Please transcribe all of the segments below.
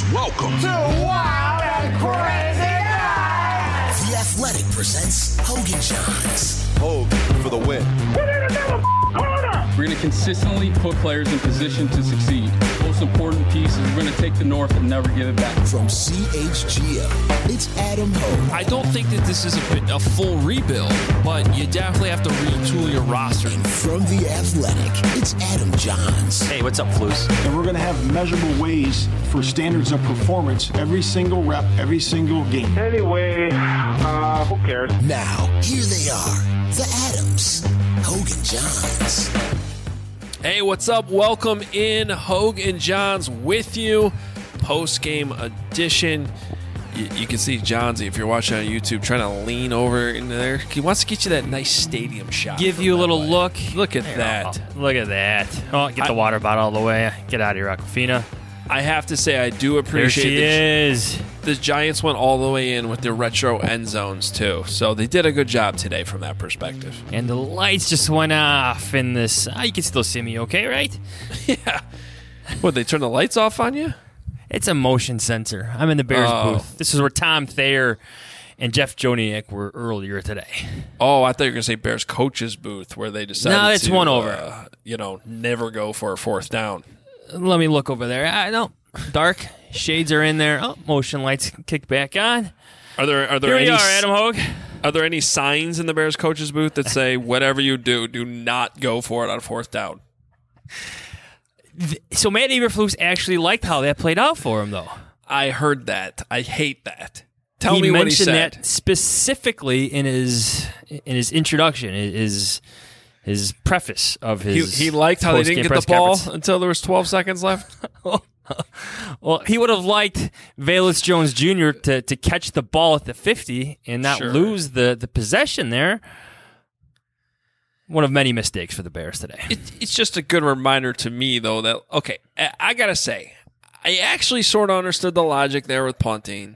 Welcome to Wild and Crazy Night. The Athletic presents Hogan Johns. Hogue for the win. We're going to consistently put players in position to succeed. Most important piece is we're going to take the North and never give it back. From CHGO, it's Adam Hogue. I don't think that this is a full rebuild, but you definitely have to retool your roster. And from The Athletic, it's Adam Johns. Hey, what's up, Flus? And we're going to have measurable ways for standards of performance every single rep, every single game. Anyway, who cares? Now, here they are, the Adams, Hogan Johns. Hey, what's up? Welcome in. Hogue and Johns with you. Post-game edition. You can see Johnsy, if you're watching on YouTube, trying to lean over in there. He wants to get you that nice stadium shot. Give you a little look. Look at that. Oh, look at that. Oh, get the water bottle all the way. Get out of here, Aquafina. I have to say, I do appreciate there she is. The Giants went all the way in with their retro end zones, too. So they did a good job today from that perspective. And the lights just went off in this. You can still see me okay, right? Yeah. What, they turned the lights off on you? It's a motion sensor. I'm in the Bears booth. This is where Tom Thayer and Jeff Joniak were earlier today. Oh, I thought you were going to say Bears coach's booth where they decided no, it's to, one over. Never go for a fourth down. Let me look over there. I know. Dark. Shades are in there. Oh, motion lights kick back on. Are there Here any, we are, Adam Hogue. Are there any signs in the Bears coach's booth that say, whatever you do not go for it on fourth down? So Matt Eberflus actually liked how that played out for him, though. I heard that. I hate that. Tell me what he said. He mentioned that specifically in his introduction, his preface of his. He liked how they didn't get the ball until there was 12 seconds left. Well, he would have liked Velus Jones Jr. to catch the ball at the 50 and not lose the possession there. One of many mistakes for the Bears today. It's just a good reminder to me, though, that, okay, I got to say, I actually sort of understood the logic there with punting.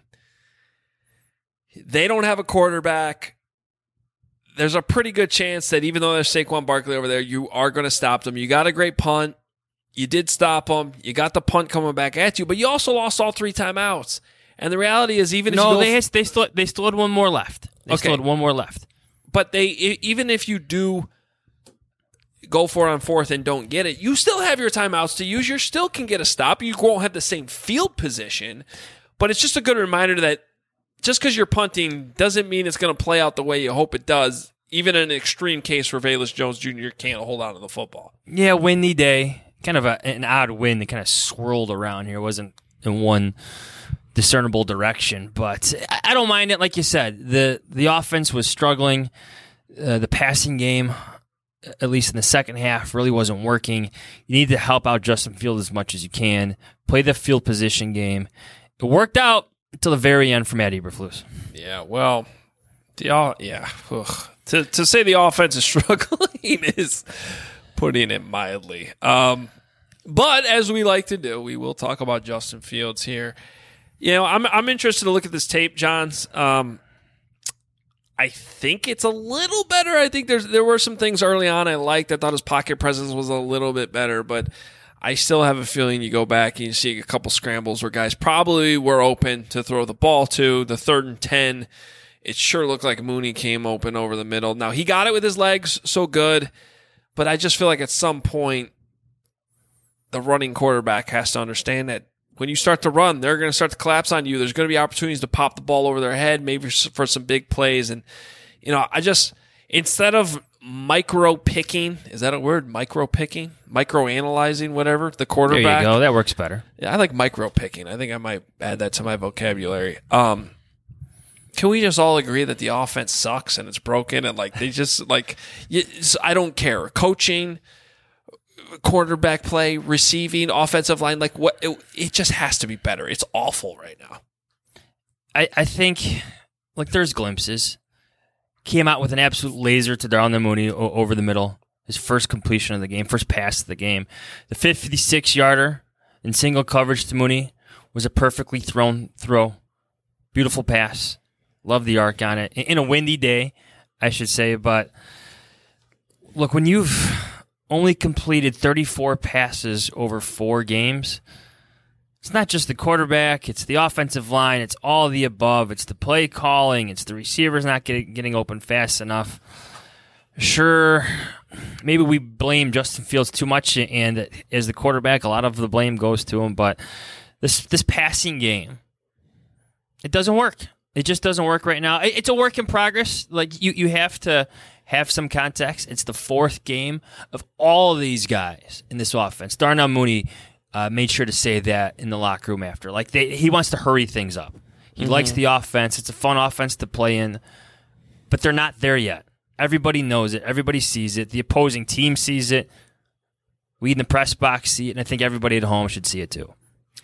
They don't have a quarterback. There's a pretty good chance that even though there's Saquon Barkley over there, you are going to stop them. You got a great punt. You did stop them. You got the punt coming back at you, but you also lost all 3 timeouts. And the reality is, even if they still had one more left. They still had one more left. But even if you do go for it on fourth and don't get it, you still have your timeouts to use. You still can get a stop. You won't have the same field position, but it's just a good reminder that just because you're punting doesn't mean it's going to play out the way you hope it does. Even in an extreme case where Velus Jones Jr. can't hold on to the football. Yeah, windy day. Kind of an odd wind that kind of swirled around here. It wasn't in one discernible direction, but I don't mind it. Like you said, the offense was struggling. The passing game, at least in the second half, really wasn't working. You need to help out Justin Fields as much as you can. Play the field position game. It worked out until the very end for Matt Eberflus. Yeah, well, to say the offense is struggling is putting it mildly. But as we like to do, we will talk about Justin Fields here. You know, I'm interested to look at this tape, Johns. I think it's a little better. I think there were some things early on I liked. I thought his pocket presence was a little bit better, but I still have a feeling you go back and you see a couple scrambles where guys probably were open to throw the ball to. The 3rd and 10, it sure looked like Mooney came open over the middle. Now, he got it with his legs, so good, but I just feel like at some point the running quarterback has to understand that when you start to run, they're going to start to collapse on you. There's going to be opportunities to pop the ball over their head, maybe for some big plays. And, instead of micro-picking, is that a word? Micro-picking? Micro-analyzing, whatever, the quarterback. There you go. That works better. Yeah, I like micro-picking. I think I might add that to my vocabulary. Can we just all agree that the offense sucks and it's broken and, they just, I don't care. Coaching, quarterback play, receiving, offensive line, it just has to be better. It's awful right now. I think, there's glimpses. Came out with an absolute laser to Darnell Mooney over the middle. His first completion of the game, first pass of the game. The 56-yarder in single coverage to Mooney was a perfectly thrown throw. Beautiful pass. Love the arc on it. In a windy day, I should say. But look, when you've only completed 34 passes over 4 games, It's not just the quarterback. It's the offensive line. It's all the above. It's the play calling. It's the receivers not getting open fast enough. Sure, maybe we blame Justin Fields too much, and as the quarterback, a lot of the blame goes to him. But this passing game, it doesn't work. It just doesn't work right now. It's a work in progress. Like you have to have some context. It's the fourth game of all of these guys in this offense. Darnell Mooney made sure to say that in the locker room after. Like he wants to hurry things up. He likes the offense. It's a fun offense to play in, but they're not there yet. Everybody knows it. Everybody sees it. The opposing team sees it. We in the press box see it, and I think everybody at home should see it too.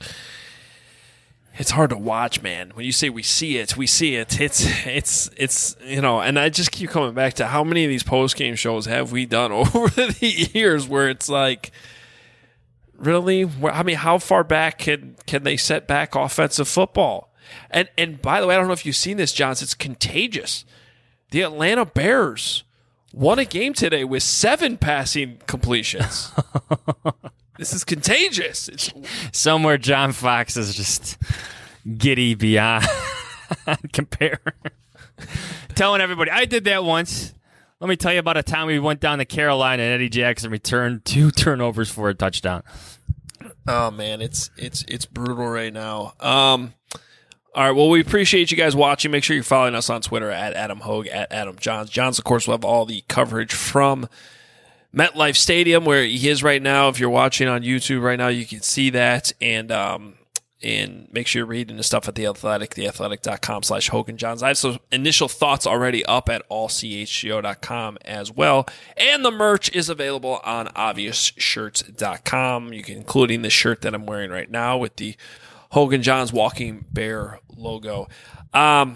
It's hard to watch, man. When you say we see it, we see it. It's and I just keep coming back to how many of these post-game shows have we done over the years where it's like, really? I mean, how far back can they set back offensive football? And by the way, I don't know if you've seen this, Johns. It's contagious. The Atlanta Bears won a game today with 7 passing completions. This is contagious. Somewhere John Fox is just giddy beyond compare. Telling everybody, I did that once. Let me tell you about a time we went down to Carolina and Eddie Jackson returned 2 turnovers for a touchdown. Oh man, it's brutal right now. All right, well, we appreciate you guys watching. Make sure you're following us on Twitter at Adam Hogue, at Adam Johns. Johns, of course, will have all the coverage from MetLife Stadium, where he is right now. If you're watching on YouTube right now, you can see that. And make sure you're reading the stuff at The Athletic, theathletic.com/HoganJohns. I have some initial thoughts already up at allchgo.com as well. And the merch is available on obviousshirts.com, including the shirt that I'm wearing right now with the Hogan Johns Walking Bear logo. We got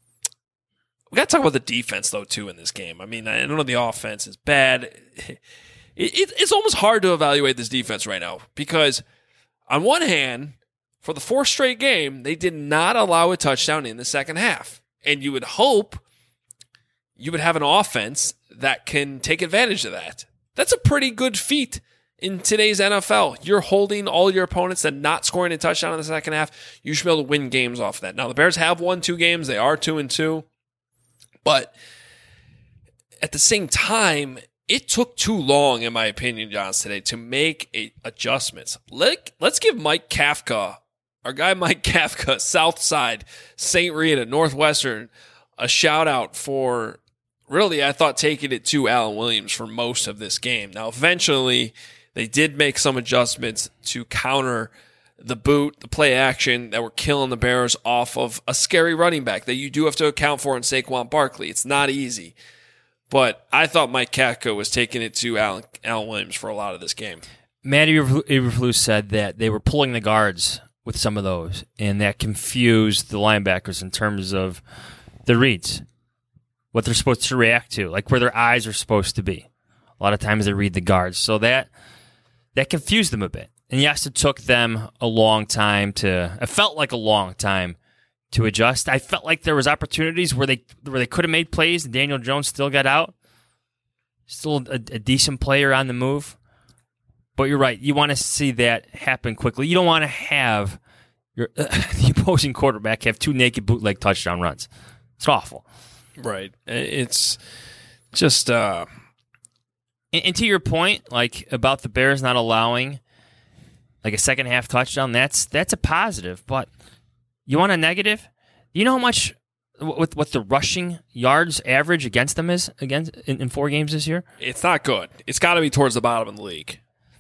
to talk about the defense, though, too, in this game. I mean, I know the offense is bad. It's almost hard to evaluate this defense right now because, on one hand, for the 4th straight game, they did not allow a touchdown in the second half. And you would hope you would have an offense that can take advantage of that. That's a pretty good feat in today's NFL. You're holding all your opponents and not scoring a touchdown in the second half. You should be able to win games off of that. Now, the Bears have won 2 games. They are 2-2. But at the same time, it took too long, in my opinion, Johns, today to make adjustments. Let's give Mike Kafka, our guy Mike Kafka, Southside, St. Rita, Northwestern, a shout out for really, I thought, taking it to Alan Williams for most of this game. Now, eventually, they did make some adjustments to counter the boot, the play action that were killing the Bears off of a scary running back that you do have to account for in Saquon Barkley. It's not easy. But I thought Mike Kafka was taking it to Alan Williams for a lot of this game. Matty Eberflus said that they were pulling the guards with some of those, and that confused the linebackers in terms of the reads, what they're supposed to react to, like where their eyes are supposed to be. A lot of times they read the guards. So that confused them a bit. And yes, it took them a long time it felt like a long time to adjust. I felt like there was opportunities where they could have made plays and Daniel Jones still got out. Still a decent player on the move. But you're right. You want to see that happen quickly. You don't want to have the opposing quarterback have 2 naked bootleg touchdown runs. It's awful. Right. It's just... And to your point, like about the Bears not allowing like a second half touchdown, that's a positive. But you want a negative? You know how much what the rushing yards average against them is in 4 games this year? It's not good. It's got to be towards the bottom of the league.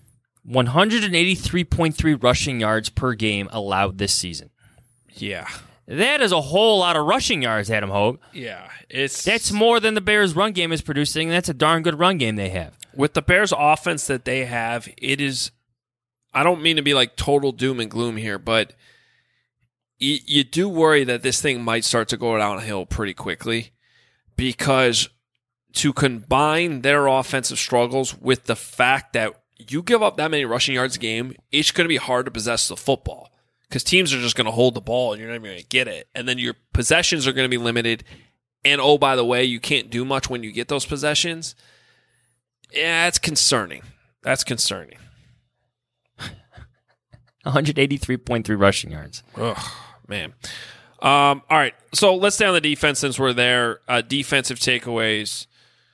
183.3 rushing yards per game allowed this season. Yeah. That is a whole lot of rushing yards, Adam Hogue. Yeah. That's more than the Bears' run game is producing, and that's a darn good run game they have. With the Bears' offense that they have, it is... I don't mean to be like total doom and gloom here, but you do worry that this thing might start to go downhill pretty quickly because to combine their offensive struggles with the fact that you give up that many rushing yards a game, it's going to be hard to possess the football because teams are just going to hold the ball and you're not even going to get it. And then your possessions are going to be limited. And oh, by the way, you can't do much when you get those possessions. Yeah, it's concerning. That's concerning. 183.3 rushing yards. Ugh, man. All right, so let's stay on the defense since we're there. Defensive takeaways.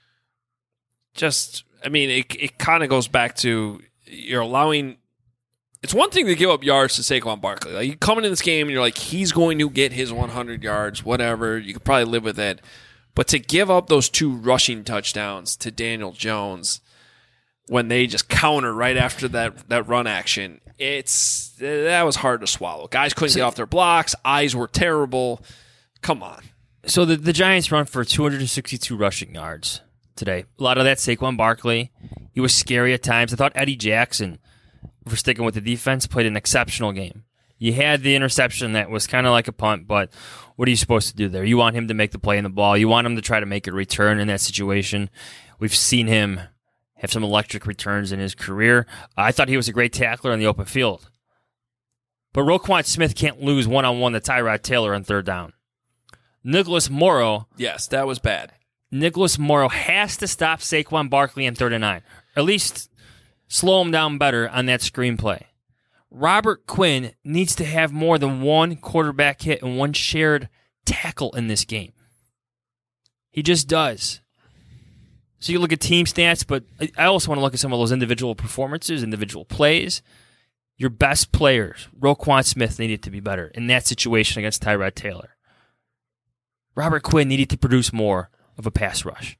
It kind of goes back to you're allowing. It's one thing to give up yards to Saquon Barkley. Like, you come into this game and you're like, he's going to get his 100 yards, whatever. You could probably live with it. But to give up those 2 rushing touchdowns to Daniel Jones when they just counter right after that run action, that was hard to swallow. Guys couldn't get off their blocks. Eyes were terrible. Come on. So the Giants run for 262 rushing yards today. A lot of that Saquon Barkley. He was scary at times. I thought Eddie Jackson, for sticking with the defense, played an exceptional game. You had the interception that was kind of like a punt, but what are you supposed to do there? You want him to make the play in the ball. You want him to try to make a return in that situation. We've seen him have some electric returns in his career. I thought he was a great tackler in the open field. But Roquan Smith can't lose one-on-one to Tyrod Taylor on third down. Nicholas Morrow. Yes, that was bad. Nicholas Morrow has to stop Saquon Barkley in 3rd and 9. Or at least slow him down better on that screenplay. Robert Quinn needs to have more than one quarterback hit and one shared tackle in this game. He just does. So you look at team stats, but I also want to look at some of those individual performances, individual plays. Your best players, Roquan Smith, needed to be better in that situation against Tyrod Taylor. Robert Quinn needed to produce more of a pass rush.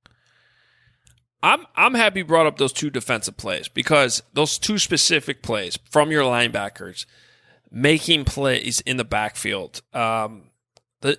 I'm happy you brought up those 2 defensive plays because those 2 specific plays from your linebackers making plays in the backfield. We're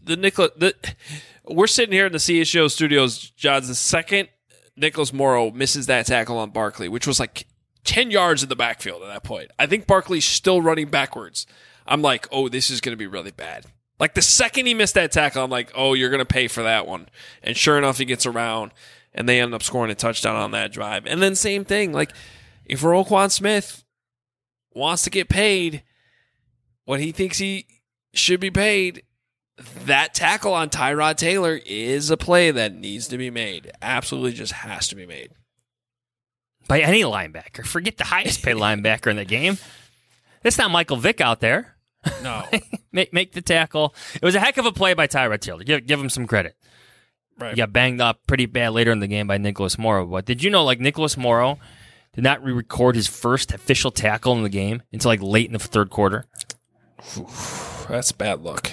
sitting here in the CHGO studios, John. The second Nicholas Morrow misses that tackle on Barkley, which was like 10 yards in the backfield at that point. I think Barkley's still running backwards. I'm like, oh, this is going to be really bad. Like the second he missed that tackle, I'm like, oh, you're going to pay for that one. And sure enough, he gets around. And they end up scoring a touchdown on that drive. And then same thing, like if Roquan Smith wants to get paid what he thinks he should be paid, that tackle on Tyrod Taylor is a play that needs to be made. Absolutely just has to be made. By any linebacker. Forget the highest paid linebacker in the game. It's not Michael Vick out there. No. make the tackle. It was a heck of a play by Tyrod Taylor. Give him some credit. Right. He got banged up pretty bad later in the game by Nicholas Morrow. But did you know, Nicholas Morrow did not re-record his first official tackle in the game until late in the 3rd quarter? That's bad luck.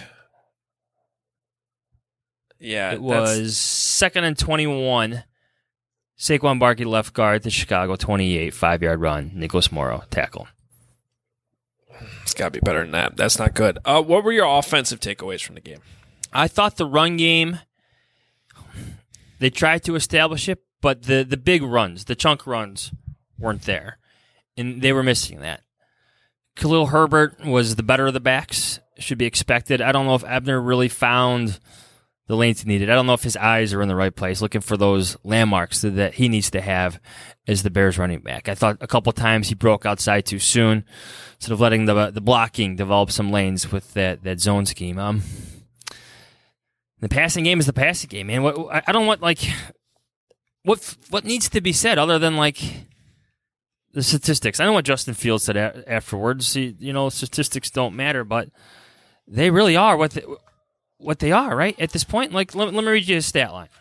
Yeah. It was 2nd and 21. Saquon Barkley left guard to Chicago, 28, 5-yard run. Nicholas Morrow, tackle. It's got to be better than that. That's not good. What were your offensive takeaways from the game? I thought the run game, they tried to establish it, but the big runs, the chunk runs, weren't there. And they were missing that. Khalil Herbert was the better of the backs, should be expected. I don't know if Ebner really found the lanes he needed. I don't know if his eyes are in the right place, looking for those landmarks that he needs to have as the Bears running back. I thought a couple times he broke outside too soon, instead of letting the blocking develop some lanes with that zone scheme. The passing game is the passing game, man. I don't want what needs to be said other than the statistics. I know what Justin Fields said afterwards. Statistics don't matter, but they really are what they are, right? At this point, let me read you his stat line.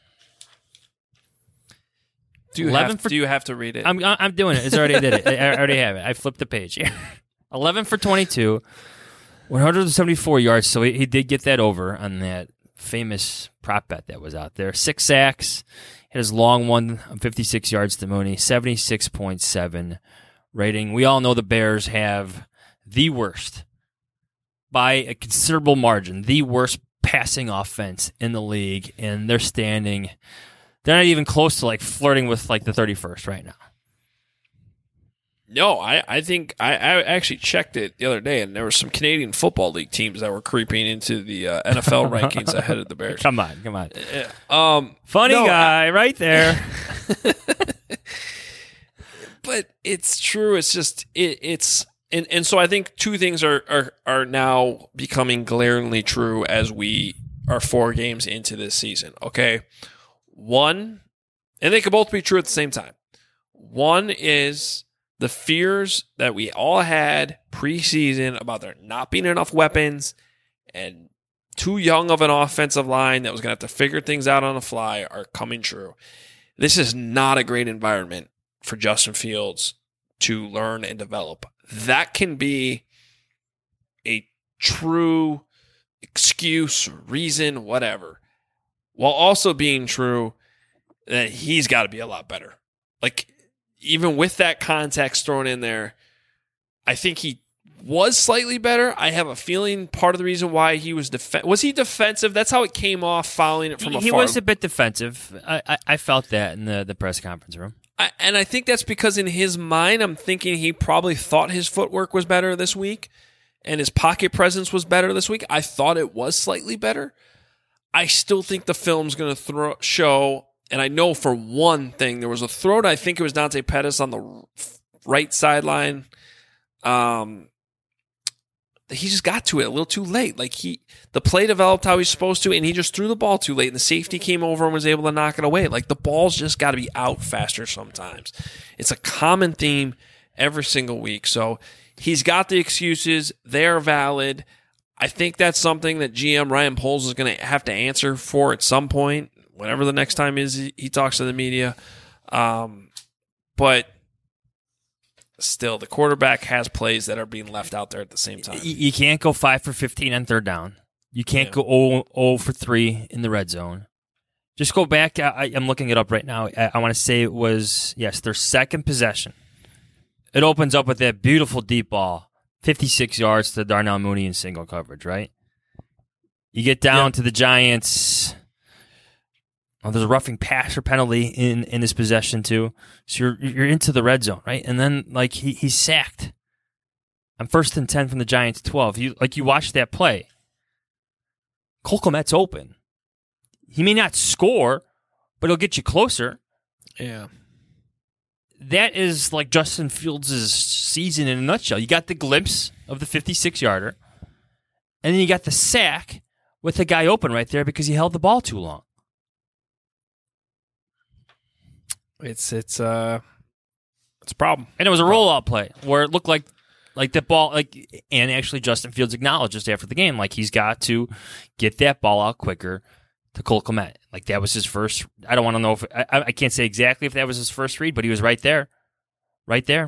Do you have to read it? I'm doing it. I did it. I already have it. I flipped the page. 11 for 22, 174 yards. So he did get that over on that famous prop bet that was out there. 6 sacks. Had his long one of 56 yards to Mooney. 76.7 rating. We all know the Bears have the worst, by a considerable margin, the worst passing offense in the league, and they're not even close to flirting with the 31st right now. No, I think I actually checked it the other day, and there were some Canadian Football League teams that were creeping into the NFL rankings ahead of the Bears. Come on. Funny guy right there. But it's true. It's just it's. And so I think 2 things are now becoming glaringly true as we are 4 games into this season. Okay, one, and they could both be true at the same time. One is the fears that we all had preseason about there not being enough weapons and too young of an offensive line that was going to have to figure things out on the fly are coming true. This is not a great environment for Justin Fields to learn and develop. That can be a true excuse, reason, whatever, while also being true that he's got to be a lot better. Like, even with that context thrown in there, I think he was slightly better. I have a feeling part of the reason why he was was he defensive? That's how it came off following it from afar. He was a bit defensive. I felt that in the press conference room. And I think that's because in his mind, I'm thinking he probably thought his footwork was better this week and his pocket presence was better this week. I thought it was slightly better. I still think the film's going to show, and I know for one thing, there was a throw to, I think it was Dante Pettis on the right sideline. He just got to it a little too late. Like the play developed how he's supposed to, and he just threw the ball too late, and the safety came over and was able to knock it away. Like, the ball's just got to be out faster sometimes. It's a common theme every single week. So he's got the excuses. They're valid. I think that's something that GM Ryan Poles is going to have to answer for at some point, whenever the next time is he talks to the media. But still, the quarterback has plays that are being left out there at the same time. You can't go 5 for 15 on third down. You can't go 0 for 3 in the red zone. Just go back. I'm looking it up right now. I want to say it was, yes, their second possession. It opens up with that beautiful deep ball, 56 yards to Darnell Mooney in single coverage, right? You get down to the Giants. Oh, there's a roughing passer penalty in his possession too. So you're into the red zone, right? And then like he's sacked on 1st and 10 from the Giants 12. You watch that play. Cole Kmet's open. He may not score, but he'll get you closer. Yeah. That is like Justin Fields' season in a nutshell. You got the glimpse of the 56-yarder, and then you got the sack with the guy open right there because he held the ball too long. It's a problem. And it was a rollout play where it looked like that ball, and actually Justin Fields acknowledged just after the game, like he's got to get that ball out quicker to Cole Kmet. Like that was his first. I don't want to know if I can't say exactly if that was his first read, but he was right there. Right there.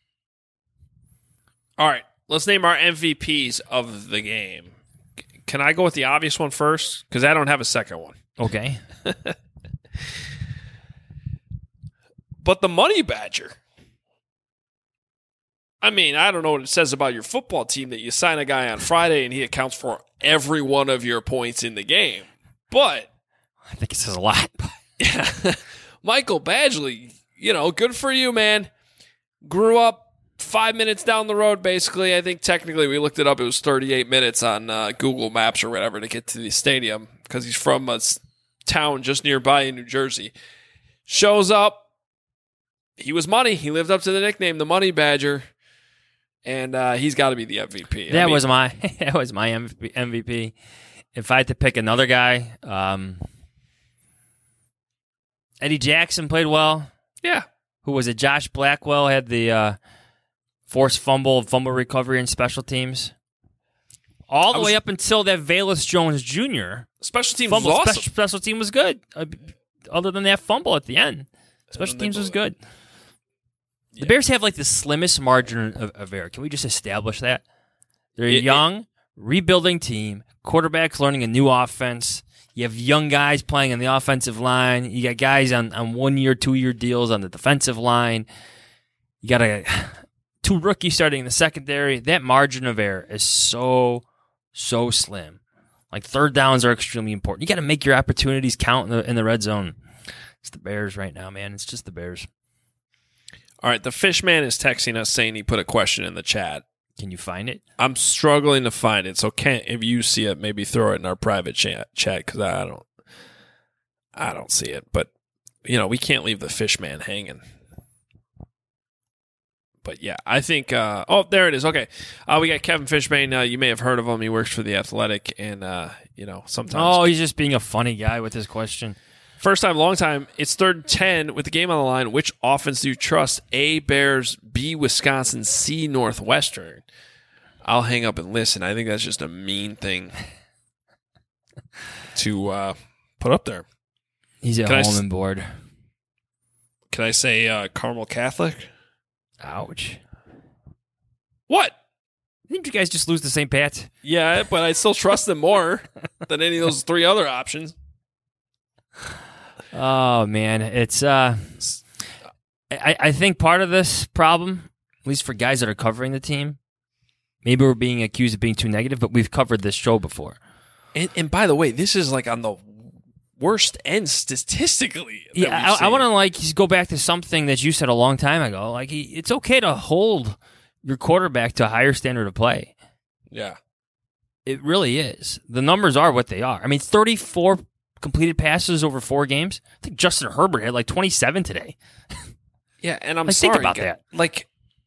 All right, let's name our MVPs of the game. Can I go with the obvious one first? Because I don't have a second one. Okay. But the Money Badger. I mean, I don't know what it says about your football team that you sign a guy on Friday and he accounts for every one of your points in the game. But I think it says a lot. Yeah, Michael Badgley, good for you, man. Grew up 5 minutes down the road, basically. I think technically we looked it up. It was 38 minutes on Google Maps or whatever to get to the stadium because he's from a town just nearby in New Jersey. Shows up. He was money. He lived up to the nickname, the Money Badger, and he's got to be the MVP. That was my MVP. If I had to pick another guy, Eddie Jackson played well. Yeah. Who was it? Josh Blackwell had the forced fumble recovery and special teams. All the way up until that Velus Jones Jr. Special teams was awesome. Special team was good. Other than that fumble at the end. Special teams was good. The Bears have like the slimmest margin of error. Can we just establish that? They're a young, rebuilding team. Quarterback's learning a new offense. You have young guys playing on the offensive line. You got guys on 1-year, 2-year deals on the defensive line. You got 2 rookies starting in the secondary. That margin of error is so slim. Like third downs are extremely important. You got to make your opportunities count in the red zone. It's the Bears right now, man. It's just the Bears. All right, the Fishman is texting us saying he put a question in the chat. Can you find it? I'm struggling to find it, so if you see it, maybe throw it in our private chat because I don't see it. But we can't leave the Fishman hanging. But yeah, I think. There it is. Okay, we got Kevin Fishman. You may have heard of him. He works for the Athletic, and sometimes. Oh, he's just being a funny guy with his question. First time, long time. It's 3rd and 10 with the game on the line. Which offense do you trust? A, Bears, B, Wisconsin, C, Northwestern. I'll hang up and listen. I think that's just a mean thing to put up there. He's at home and bored. Can I say Carmel Catholic? Ouch. What? Didn't you guys just lose to St. Pat? Yeah, but I still trust them more than any of those 3 other options. Oh, man. It's I think part of this problem, at least for guys that are covering the team, maybe we're being accused of being too negative, but we've covered this show before. And by the way, this is like on the worst end statistically. Yeah, I want to go back to something that you said a long time ago. Like, it's okay to hold your quarterback to a higher standard of play. Yeah. It really is. The numbers are what they are. I mean, 34 completed passes over 4 games. I think Justin Herbert had like 27 today. Yeah, and I'm sorry. Think about that. Like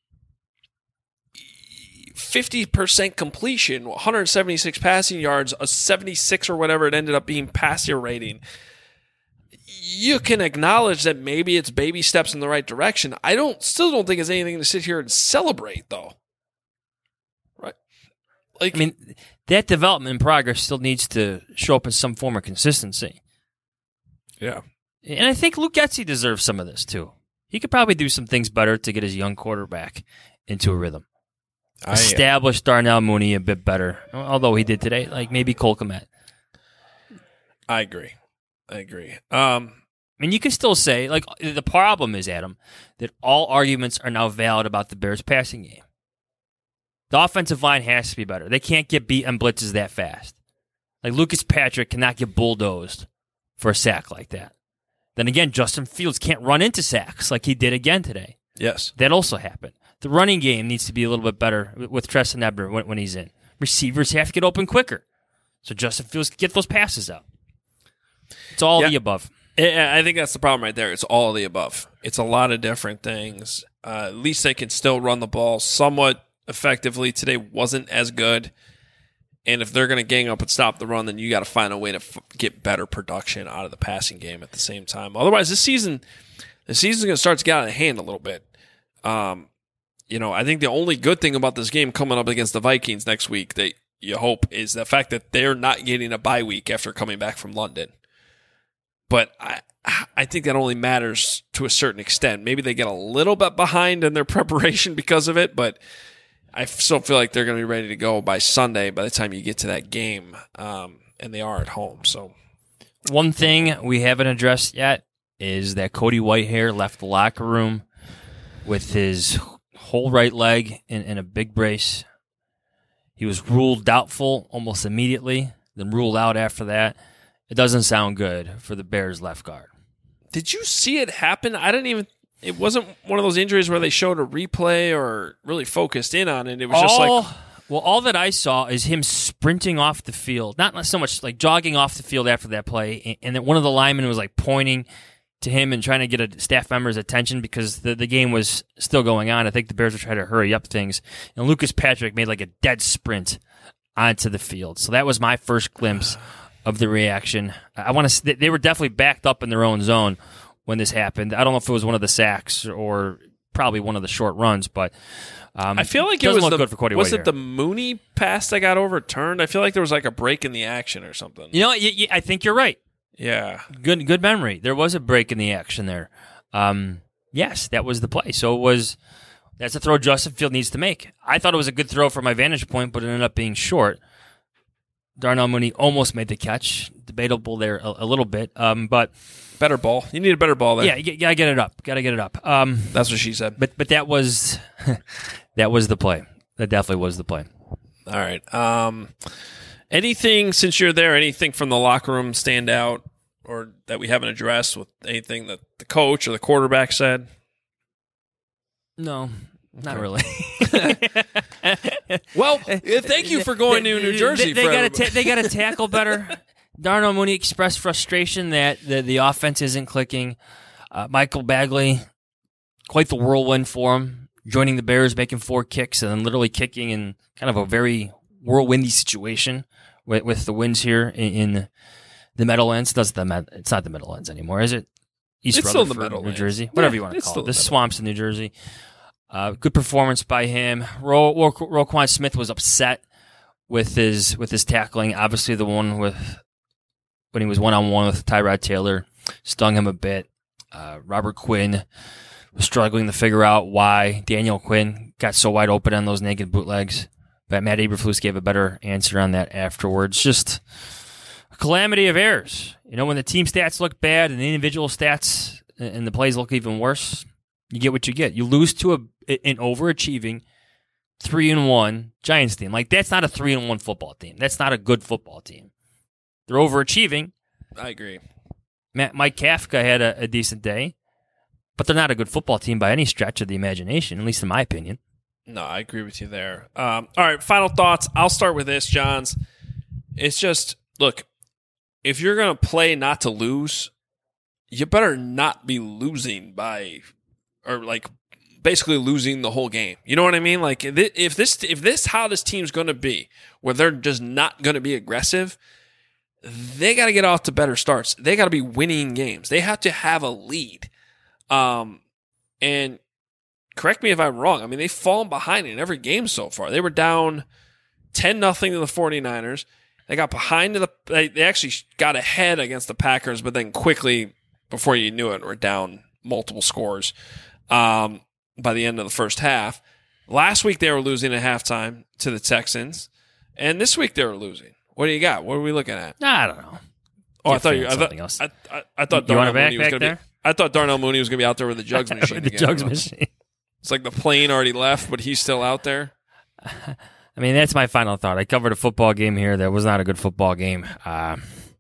50% completion, 176 passing yards, a 76 or whatever it ended up being passer rating. You can acknowledge that maybe it's baby steps in the right direction. I still don't think it's anything to sit here and celebrate, though. Right? Like, I mean, that development and progress still needs to show up in some form of consistency. Yeah. And I think Luke Getsy deserves some of this, too. He could probably do some things better to get his young quarterback into a rhythm. Establish Darnell Mooney a bit better, although he did today, like maybe Cole Kmet. I agree. I mean, you can still say, like, the problem is, Adam, that all arguments are now valid about the Bears' passing game. The offensive line has to be better. They can't get beat on blitzes that fast. Like, Lucas Patrick cannot get bulldozed for a sack like that. Then again, Justin Fields can't run into sacks like he did again today. Yes. That also happened. The running game needs to be a little bit better with Treston Ebner when he's in. Receivers have to get open quicker, so Justin Fields can get those passes out. It's all the above. I think that's the problem right there. It's all of the above. It's a lot of different things. At least they can still run the ball somewhat effectively. Today wasn't as good. And if they're going to gang up and stop the run, then you got to find a way to get better production out of the passing game at the same time. Otherwise, the season's going to start to get out of hand a little bit. I think the only good thing about this game coming up against the Vikings next week that you hope is the fact that they're not getting a bye week after coming back from London. But I think that only matters to a certain extent. Maybe they get a little bit behind in their preparation because of it, but I still feel like they're going to be ready to go by Sunday by the time you get to that game, and they are at home. So, one thing we haven't addressed yet is that Cody Whitehair left the locker room with his whole right leg in a big brace. He was ruled doubtful almost immediately, then ruled out after that. It doesn't sound good for the Bears left guard. Did you see it happen? It wasn't one of those injuries where they showed a replay or really focused in on it. It was just like... Well, all that I saw is him sprinting off the field. Not so much like jogging off the field after that play, and then one of the linemen was like pointing to him and trying to get a staff member's attention because the game was still going on. I think the Bears were trying to hurry up things. And Lucas Patrick made like a dead sprint onto the field. So that was my first glimpse of the reaction. They were definitely backed up in their own zone when this happened. I don't know if it was one of the sacks or probably one of the short runs, but I feel like it was good for Cody. Was it the Mooney pass that got overturned? I feel like there was like a break in the action or something. You know, I think you're right. Yeah. Good memory. There was a break in the action there. Yes, that was the play. So that's a throw Justin Field needs to make. I thought it was a good throw from my vantage point, but it ended up being short. Darnell Mooney almost made the catch. Debatable there a little bit. But better ball. You need a better ball there. Yeah, you gotta get it up. That's what she said. But that was that was the play. That definitely was the play. All right. Anything, since you're there, anything from the locker room stand out or that we haven't addressed with anything that the coach or the quarterback said? No, not really. Well, thank you for going to New Jersey. They got to tackle better. Darnell Mooney expressed frustration that the offense isn't clicking. Michael Bagley, quite the whirlwind for him, joining the Bears, making 4 kicks, and then literally kicking in kind of a very whirlwindy situation with the wins here in the Meadowlands. It's not the Meadowlands anymore, is it? East It's still the Rutherford, New Meadowlands. Jersey, whatever Yeah, you want to it's call still it. the The swamps in New Jersey. Good performance by him. Roquan Smith was upset with his tackling. Obviously, the one when he was 1-on-1 with Tyrod Taylor stung him a bit. Robert Quinn was struggling to figure out why Daniel Quinn got so wide open on those naked bootlegs. But Matt Eberflus gave a better answer on that afterwards. Just a calamity of errors. When the team stats look bad and the individual stats and the plays look even worse, you get what you get. You lose to an overachieving 3-1 Giants team. Like, that's not a 3-1 football team. That's not a good football team. They're overachieving. I agree. Mike Kafka had a decent day, but they're not a good football team by any stretch of the imagination, at least in my opinion. No, I agree with you there. All right, final thoughts. I'll start with this, Johns. It's just, look, if you're going to play not to lose, you better not be losing basically losing the whole game. You know what I mean? Like, if this how this team's going to be, where they're just not going to be aggressive, they got to get off to better starts. They got to be winning games. They have to have a lead. And correct me if I'm wrong. I mean, they've fallen behind in every game so far. They were down 10-0 to the 49ers. They got behind they actually got ahead against the Packers, but then quickly, before you knew it, were down multiple scores by the end of the first half. Last week they were losing at halftime to the Texans, and this week they were losing. What do you got? What are we looking at? I don't know. Oh, I thought Darnell Mooney was going to be. I thought Darnell Mooney was going to be out there with the jugs machine. The jugs machine. It's like the plane already left, but he's still out there. I mean, that's my final thought. I covered a football game here that was not a good football game. Let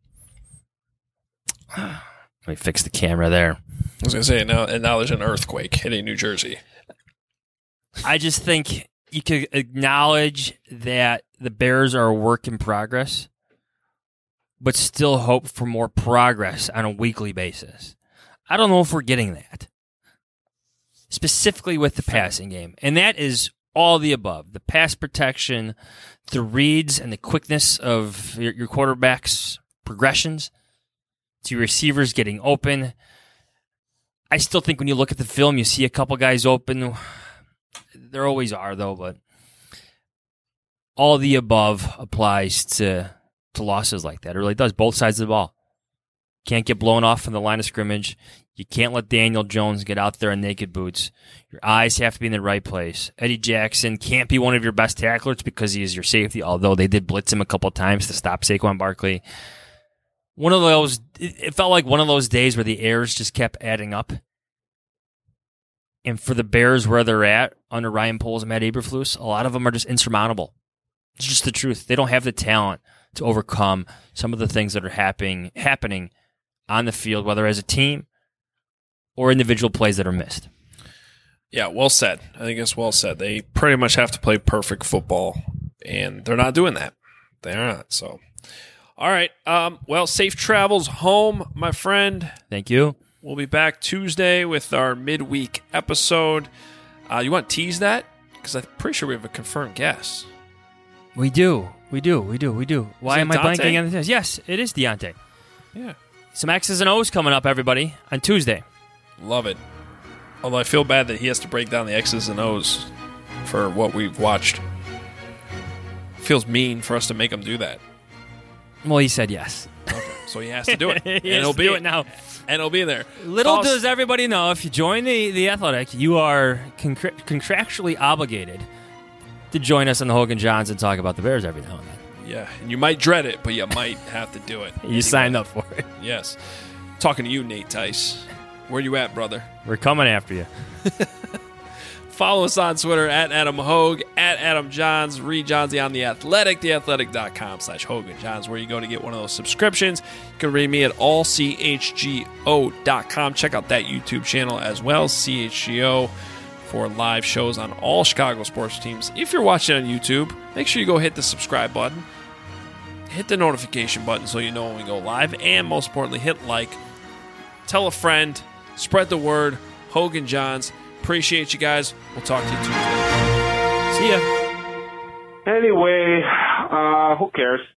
me fix the camera there. I was going to say, now there's an earthquake hitting New Jersey. I just think you could acknowledge that the Bears are a work in progress, but still hope for more progress on a weekly basis. I don't know if we're getting that, specifically with the passing game. And that is all the above. The pass protection, the reads, and the quickness of your quarterback's progressions to your receivers getting open. I still think when you look at the film, you see a couple guys open. There always are, though, but all the above applies to losses like that. It really does. Both sides of the ball. Can't get blown off from the line of scrimmage. You can't let Daniel Jones get out there in naked boots. Your eyes have to be in the right place. Eddie Jackson can't be one of your best tacklers because he is your safety, although they did blitz him a couple times to stop Saquon Barkley. It felt like one of those days where the errors just kept adding up. And for the Bears where they're at under Ryan Poles and Matt Eberflus, a lot of them are just insurmountable. It's just the truth. They don't have the talent to overcome some of the things that are happening on the field, whether as a team or individual plays that are missed. Yeah, well said. I think it's well said. They pretty much have to play perfect football, and they're not doing that. They're not. So, all right. Well, safe travels home, my friend. Thank you. We'll be back Tuesday with our midweek episode. You want to tease that? Because I'm pretty sure we have a confirmed guest. We do. Why am I blanking on this? Yes, it is Deontay. Yeah. Some X's and O's coming up, everybody, on Tuesday. Love it. Although I feel bad that he has to break down the X's and O's for what we've watched. Feels mean for us to make him do that. Well, he said yes. Okay. So he has to do it. He has to do it now. And he'll be there. Little does everybody know, if you join the Athletic, you are contractually obligated to join us on the Hogan Johns and talk about the Bears every now and then. Yeah, and you might dread it, but you might have to do it. You signed up for it. Yes. Talking to you, Nate Tice. Where you at, brother? We're coming after you. Follow us on Twitter at Adam Hogue, at Adam Johns, read Johnsy on The Athletic, theathletic.com/Hogan Johns, where you go to get one of those subscriptions. You can read me at allchgo.com. Check out that YouTube channel as well, CHGO, for live shows on all Chicago sports teams. If you're watching on YouTube, make sure you go hit the subscribe button, hit the notification button so you know when we go live, and most importantly, hit like. Tell a friend, spread the word. Hogan Johns. Appreciate you guys. We'll talk to you Tuesday. See ya. Anyway, who cares?